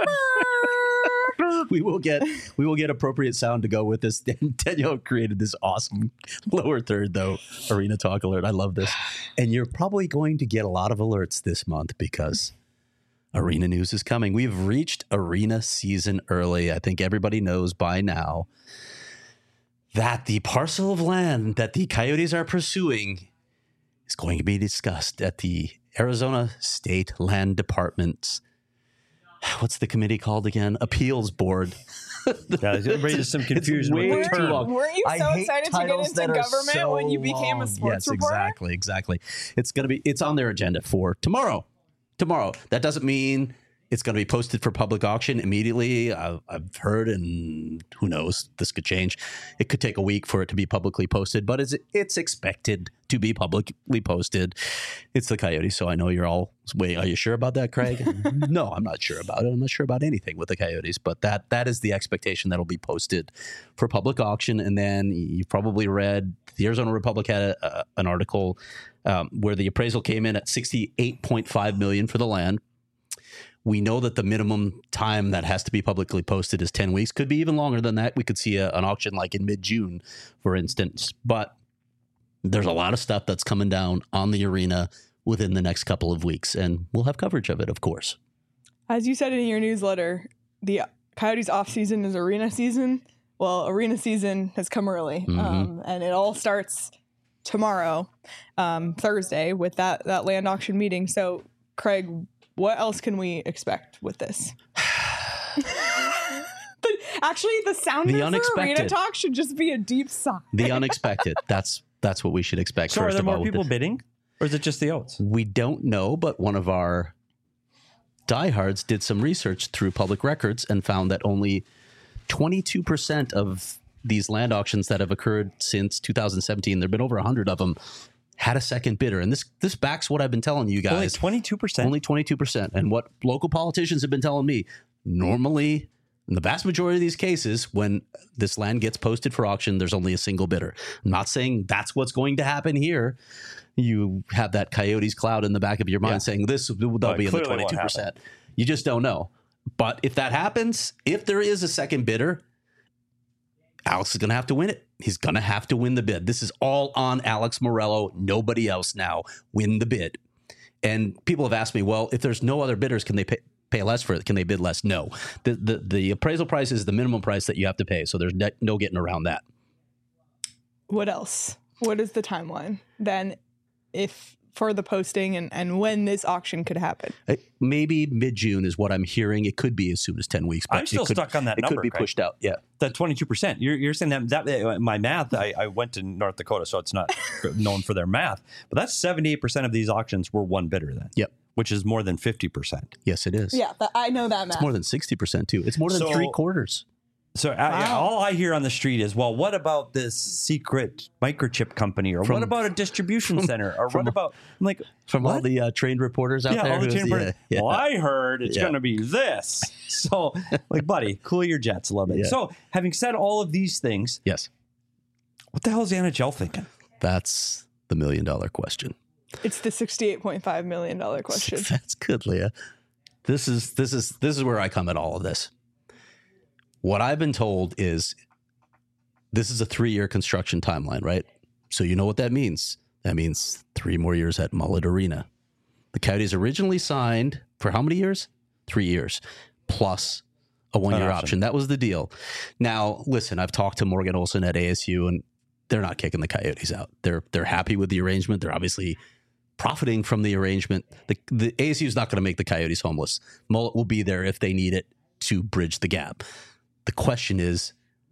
we will get we will get appropriate sound to go with this. Danielle created this awesome lower third though arena talk alert. I love this, and you're probably going to get a lot of alerts this month because arena news is coming. We've reached arena season early. I think everybody knows by now that the parcel of land that the Coyotes are pursuing is going to be discussed at the Arizona State Land Department's, what's the committee called again? Appeals Board. Yeah, everybody just some confusion way with the too term. long. Weren't you I so hate excited to get titles into that are government so when you became a long. sports yes, reporter? exactly, exactly. It's gonna be. It's on their agenda for tomorrow. Tomorrow. That doesn't mean it's going to be posted for public auction immediately. I've, I've heard, and who knows, this could change. It could take a week for it to be publicly posted, but it's, it's expected to be publicly posted. It's the Coyotes, so I know you're all, wait, are you sure about that, Craig? No, I'm not sure about it. I'm not sure about anything with the Coyotes, but that that is the expectation that'll be posted for public auction. And then you've probably read the Arizona Republic had a, a, an article um, where the appraisal came in at sixty-eight point five million dollars for the land. We know that the minimum time that has to be publicly posted is ten weeks. Could be even longer than that. We could see a, an auction like in mid-June, for instance. But there's a lot of stuff that's coming down on the arena within the next couple of weeks, and we'll have coverage of it, of course. As you said in your newsletter, the Coyotes off season is arena season. Well, arena season has come early, Mhm. um, and it all starts tomorrow, um, Thursday, with that that land auction meeting. So, Craig, what else can we expect with this? But actually, the sound The for arena unexpected. talk should just be a deep sigh. The unexpected. That's that's what we should expect. So are first there of more all, with people this. bidding? Or is it just the oats? We don't know, but one of our diehards did some research through public records and found that only twenty-two percent of these land auctions that have occurred since two thousand seventeen, there have been over one hundred of them, had a second bidder. And this this backs what I've been telling you guys. Only twenty-two percent? Only twenty-two percent. And what local politicians have been telling me, normally, in the vast majority of these cases, when this land gets posted for auction, there's only a single bidder. I'm not saying that's what's going to happen here. You have that Coyotes cloud in the back of your mind Yeah. saying this will But be in the clearly what twenty-two percent. You just don't know. But if that happens, if there is a second bidder, Alex is going to have to win it. He's going to have to win the bid. This is all on Alex Morello, nobody else now. Win the bid. And people have asked me, well, if there's no other bidders, can they pay, pay less for it? Can they bid less? No. The, the the appraisal price is the minimum price that you have to pay. So there's ne- no getting around that. What else? What is the timeline then if for the posting and, and when this auction could happen? Uh, Maybe mid-June is what I'm hearing. It could be as soon as ten weeks. But I'm still it could, stuck on that it number, could be Craig. pushed out. Yeah. That twenty-two percent. You're, you're saying that, that uh, my math, I, I went to North Dakota, so it's not known for their math. But that's seventy-eight percent of these auctions were one bidder then. Yep. Which is more than fifty percent. Yes, it is. Yeah, that, I know that math. It's more than sixty percent too. It's more than So- three quarters. So uh, yeah, all I hear on the street is, well, what about this secret microchip company? Or From- what about a distribution center? Or from- what about, I'm like, From all what? the uh, trained reporters out yeah, there. all the who's- chain yeah, yeah, yeah. Well, I heard it's Yeah. going to be this. So, like, buddy, cool your jets a little bit. Yeah. So, having said all of these things, Yes. what the hell is the N H L thinking? That's the million dollar question. It's the sixty-eight point five million dollars question. That's good, Leah. This is this is this is where I come at all of this. What I've been told is this is a three-year construction timeline, right? So you know what that means. That means three more years at Mullet Arena. The Coyotes originally signed for how many years? Three years, plus a one-year An option. option. That was the deal. Now, listen, I've talked to Morgan Olson at A S U, and they're not kicking the Coyotes out. They're they're happy with the arrangement. They're obviously profiting from the arrangement. The, the A S U is not going to make the Coyotes homeless. Mullet will be there if they need it to bridge the gap. The question is,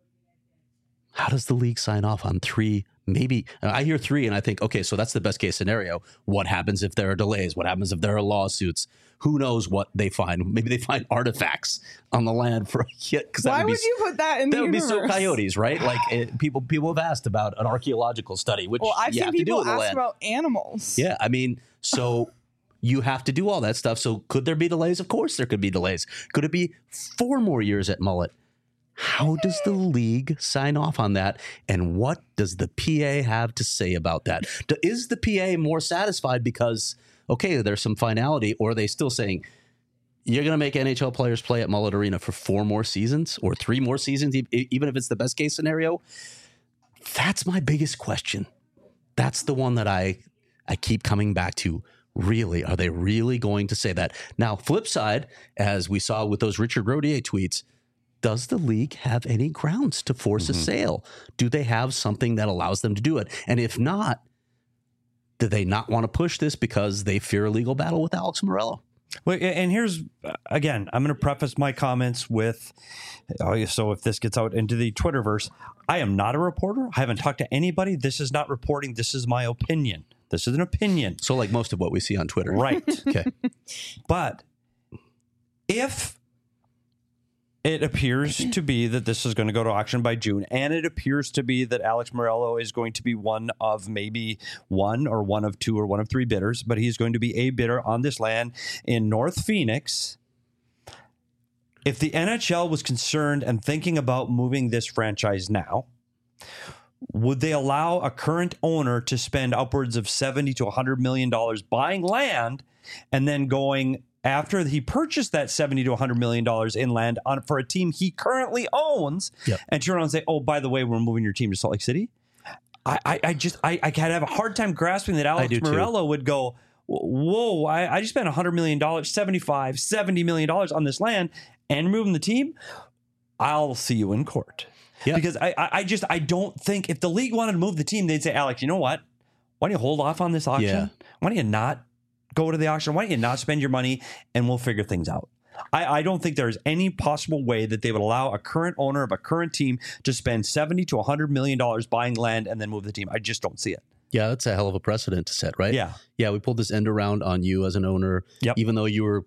how does the league sign off on three? Maybe I hear three and I think, okay, so that's the best case scenario. What happens if there are delays? What happens if there are lawsuits? Who knows what they find? Maybe they find artifacts on the land for yeah, because Why would you put that in the that would universe? be so Coyotes, right? Like it, people people have asked about an archaeological study, which Well, I've you seen have to do people on the ask land. about animals. Yeah, I mean, so you have to do all that stuff. So could there be delays? Of course there could be delays. Could it be four more years at Mullet? How does the league sign off on that? And what does the P A have to say about that? Do- Is the P A more satisfied because, okay, there's some finality, or are they still saying, you're going to make N H L players play at Mullet Arena for four more seasons or three more seasons, e- even if it's the best case scenario? That's my biggest question. That's the one that I I keep coming back to. Really, are they really going to say that? Now, flip side, as we saw with those Richard Rodier tweets, does the league have any grounds to force Mm-hmm. a sale? Do they have something that allows them to do it? And if not, do they not want to push this because they fear a legal battle with Alex Morello? Well, and here's, again, I'm going to preface my comments with, oh, so if this gets out into the Twitterverse, I am not a reporter. I haven't talked to anybody. This is not reporting. This is my opinion. This is an opinion. So like most of what we see on Twitter. Right. Okay. But if it appears to be that this is going to go to auction by June, and it appears to be that Alex Morello is going to be one of maybe one or one of two or one of three bidders, but he's going to be a bidder on this land in North Phoenix. If the N H L was concerned and thinking about moving this franchise now, would they allow a current owner to spend upwards of seventy to one hundred million dollars buying land and then going after he purchased that seventy to one hundred million dollars in land on for a team he currently owns, Yep. and turn around and say, oh, by the way, we're moving your team to Salt Lake City? I, I, I just, I, I kind of have a hard time grasping that Alex do too. Morello would go, whoa, I, I just spent one hundred million dollars, seventy-five, seventy million dollars on this land and moving the team. I'll see you in court. Yeah. Because I, I I just, I don't think if the league wanted to move the team, they'd say, Alex, you know what? Why don't you hold off on this auction? Yeah. Why don't you not go to the auction? Why don't you not spend your money and we'll figure things out? I, I don't think there's any possible way that they would allow a current owner of a current team to spend seventy to one hundred million dollars buying land and then move the team. I just don't see it. Yeah, that's a hell of a precedent to set, right? Yeah. Yeah, we pulled this end around on you as an owner, Yep. even though you were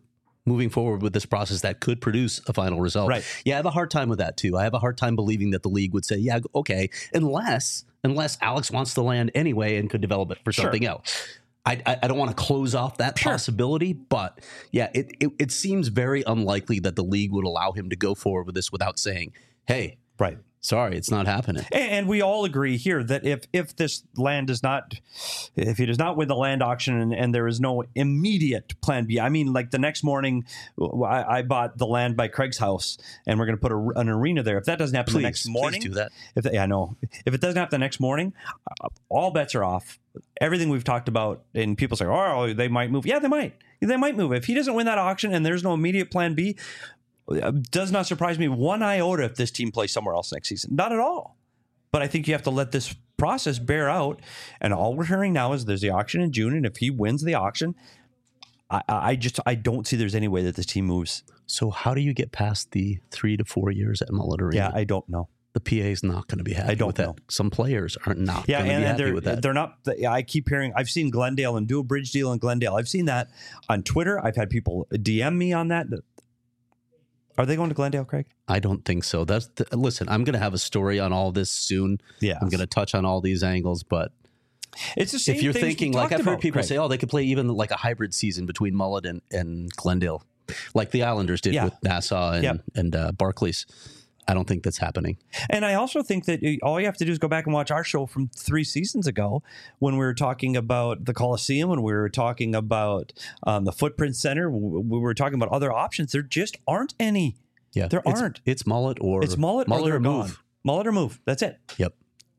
moving forward with this process that could produce a final result. Right. Yeah, I have a hard time with that too. I have a hard time believing that the league would say, yeah, okay, unless unless Alex wants the land anyway and could develop it for Sure. something else. I, I, I don't want to close off that Sure. possibility, but yeah, it, it it seems very unlikely that the league would allow him to go forward with this without saying, hey, Right. sorry, it's not happening. And, and we all agree here that if if this land does not, if he does not win the land auction and, and there is no immediate plan B, I mean, like the next morning, I, I bought the land by Craig's house and we're going to put a, an arena there. If that doesn't happen Please, the next morning, please do that. If that, yeah, I know. If it doesn't happen the next morning, uh, all bets are off. Everything we've talked about, and people say, oh, they might move. Yeah, they might. They might move. If he doesn't win that auction and there's no immediate plan B, it does not surprise me one iota if this team plays somewhere else next season. Not at all. But I think you have to let this process bear out. And all we're hearing now is there's the auction in June. And if he wins the auction, I, I just I don't see there's any way that this team moves. So how do you get past the three to four years at Mullet Arena? Yeah, I don't know. The P A is not going to be happy I don't with that. know. Some players are not Yeah, going to and, be and happy they're with that. they're not. I keep hearing. I've seen Glendale and do a bridge deal in Glendale. I've seen that on Twitter. I've had people D M me on that. Are they going to Glendale, Craig? I don't think so. That's the, listen. I'm going to have a story on all this soon. Yeah, I'm going to touch on all these angles, but it's the same if you're things we thinking, like talked I've heard about, people Craig. say, oh, they could play even like a hybrid season between Mullet and, and Glendale, like the Islanders did Yeah. with Nassau and Yep. and uh, Barclays. I don't think that's happening. And I also think that all you have to do is go back and watch our show from three seasons ago when we were talking about the Coliseum, when we were talking about um, the Footprint Center, we were talking about other options. There just aren't any. Yeah, There it's, aren't. It's Mullet or It's mullet, Mullet or, they're or gone. move. Mullet or move. That's it. Yep.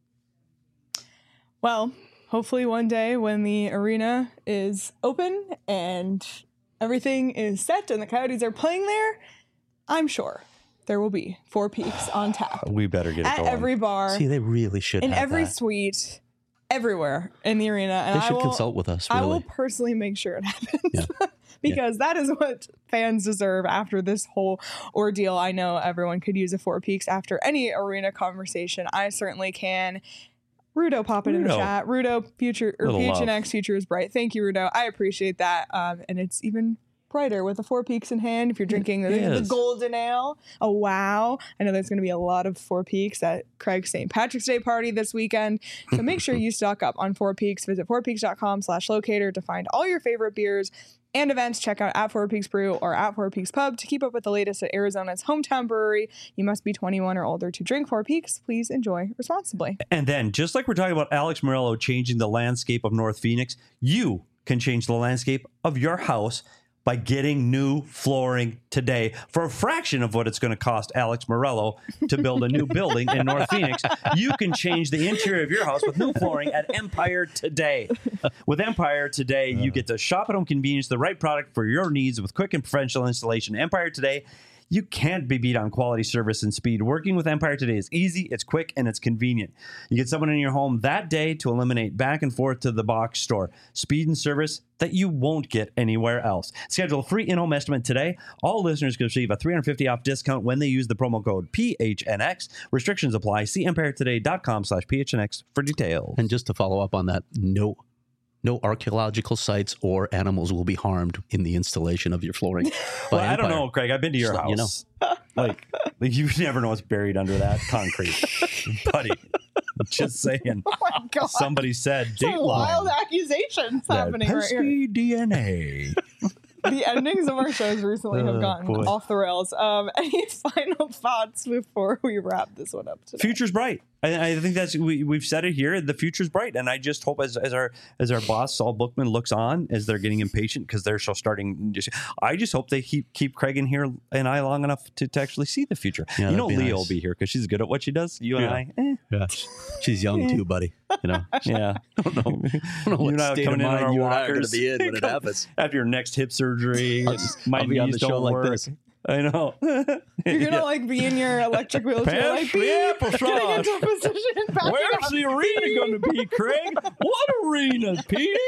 Well, hopefully one day when the arena is open and everything is set and the Coyotes are playing there, I'm sure there will be Four Peaks on tap We better get it at going. every bar, See, they really should in have every that. suite, everywhere in the arena. And They I should will, consult with us. I Really. will personally make sure it happens. Yeah. Because that is what fans deserve after this whole ordeal. I know everyone could use a Four Peaks after any arena conversation. I certainly can. Rudo, pop it in the Rudo. chat. Rudo, future or Little P H N love. X future is bright. Thank you, Rudo. I appreciate that. Um, and it's even brighter with the Four Peaks in hand. If you're drinking the, the is. golden ale, oh wow! I know there's going to be a lot of Four Peaks at Craig's Saint Patrick's Day party this weekend. So make sure you stock up on Four Peaks. Visit four peaks dot com slash locator to find all your favorite beers and events. Check out at Four Peaks Brew or at Four Peaks Pub to keep up with the latest at Arizona's hometown brewery. You must be twenty-one or older to drink Four Peaks. Please enjoy responsibly. And then, just like we're talking about Alex Morello changing the landscape of North Phoenix, you can change the landscape of your house by getting new flooring today for a fraction of what it's going to cost Alex Morello to build a new building in North Phoenix. You can change the interior of your house with new flooring at Empire Today. With Empire Today, you get to shop at home convenience, the right product for your needs with quick and professional installation. Empire Today, you can't be beat on quality service and speed. Working with Empire Today is easy, it's quick, and it's convenient. You get someone in your home that day to eliminate back and forth to the box store. Speed and service that you won't get anywhere else. Schedule a free in-home estimate today. All listeners can receive a three hundred fifty dollars off discount when they use the promo code P H N X. Restrictions apply. See empire today dot com slash P H N X for details. And just to follow up on that, no no archaeological sites or animals will be harmed in the installation of your flooring. Well, by I don't Empire. know, Craig. I've been to your Just house. letting you know. Like, like, you never know what's buried under that concrete. Buddy, just saying. Oh my God. Somebody said Some Dateline. wild accusations That happening right here. pesky D N A. The endings of our shows recently have Oh, gotten boy. off the rails. Um, any final thoughts before we wrap this one up today? Future's bright. I, I think that's we, we've said it here. The future's bright, and I just hope as, as our as our boss Saul Bookman looks on as they're getting impatient because they're still starting. Just, I just hope they keep keep Craig in here and I long enough to, to actually see the future. Yeah, you know, that'd be Leah nice. will be here because she's good at what she does. You and Yeah. I, eh, Yeah. She's young too, buddy. You know, yeah. I don't know, I don't know You what and I state of coming in on mind our you and I are going to walkers. be in when it Come- happens. After your next hip surgery, I'll and just- my I'll be on knees the show don't like work. this. I know. You're gonna like be in your electric wheelchair, Pass like the be applesauce. getting into a position. backing Where's up. the arena going to be, Craig? What arena, Pete?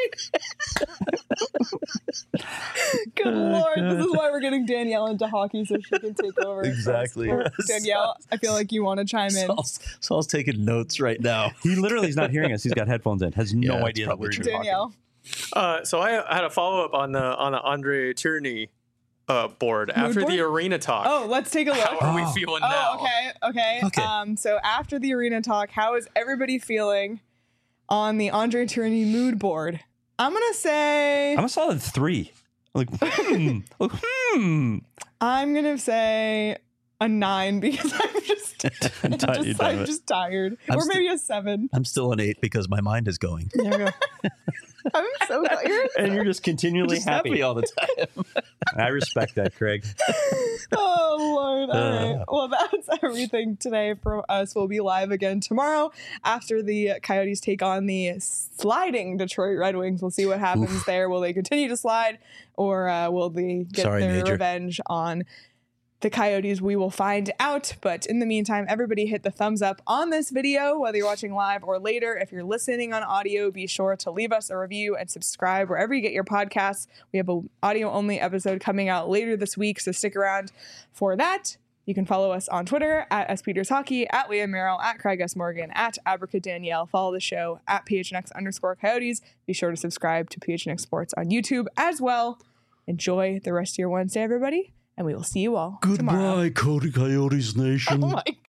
Good lord, this is why we're getting Danielle into hockey so she can take over. Exactly. Or, Danielle, I feel like you want to chime in. Saul's, Saul's taking notes right now. He literally is not hearing us. He's got headphones in. Has no Yeah, that's idea that probably we're true. talking. Danielle, Uh, so I had a follow up on the on the Andre Tierney uh, board after board? the arena talk. Oh, let's take a look. How are we Oh. feeling Oh, now? okay, okay. Okay. Um, so after the arena talk, how is everybody feeling on the Andre Tourigny mood board? I'm gonna say I'm a solid three. Like, hmm, like, hmm. I'm gonna say a nine because I'm just, I'm Ti- you're just, done I'm with it. just tired, I'm or st- maybe a seven. I'm still an eight because my mind is going. There we go. I'm so tired. And you're just continually Just happy. happy all the time. I respect that, Craig. Oh Lord! All Uh. right. Well, that's everything today from us. We'll be live again tomorrow after the Coyotes take on the sliding Detroit Red Wings. We'll see what happens Oof. there. Will they continue to slide, or uh, will they get Sorry, their Major. revenge on the Coyotes? We will find out. But in the meantime, everybody hit the thumbs up on this video, whether you're watching live or later. If you're listening on audio, be sure to leave us a review and subscribe wherever you get your podcasts. We have an audio only episode coming out later this week, so stick around for that. You can follow us on Twitter at SPetersHockey, at Liam Merrill, at Craig S. Morgan, at Abrica Danielle. Follow the show at PHNX underscore Coyotes. Be sure to subscribe to P H N X Sports on YouTube as well. Enjoy the rest of your Wednesday, everybody. And we will see you all tomorrow. Cody Coyotes Nation. Oh my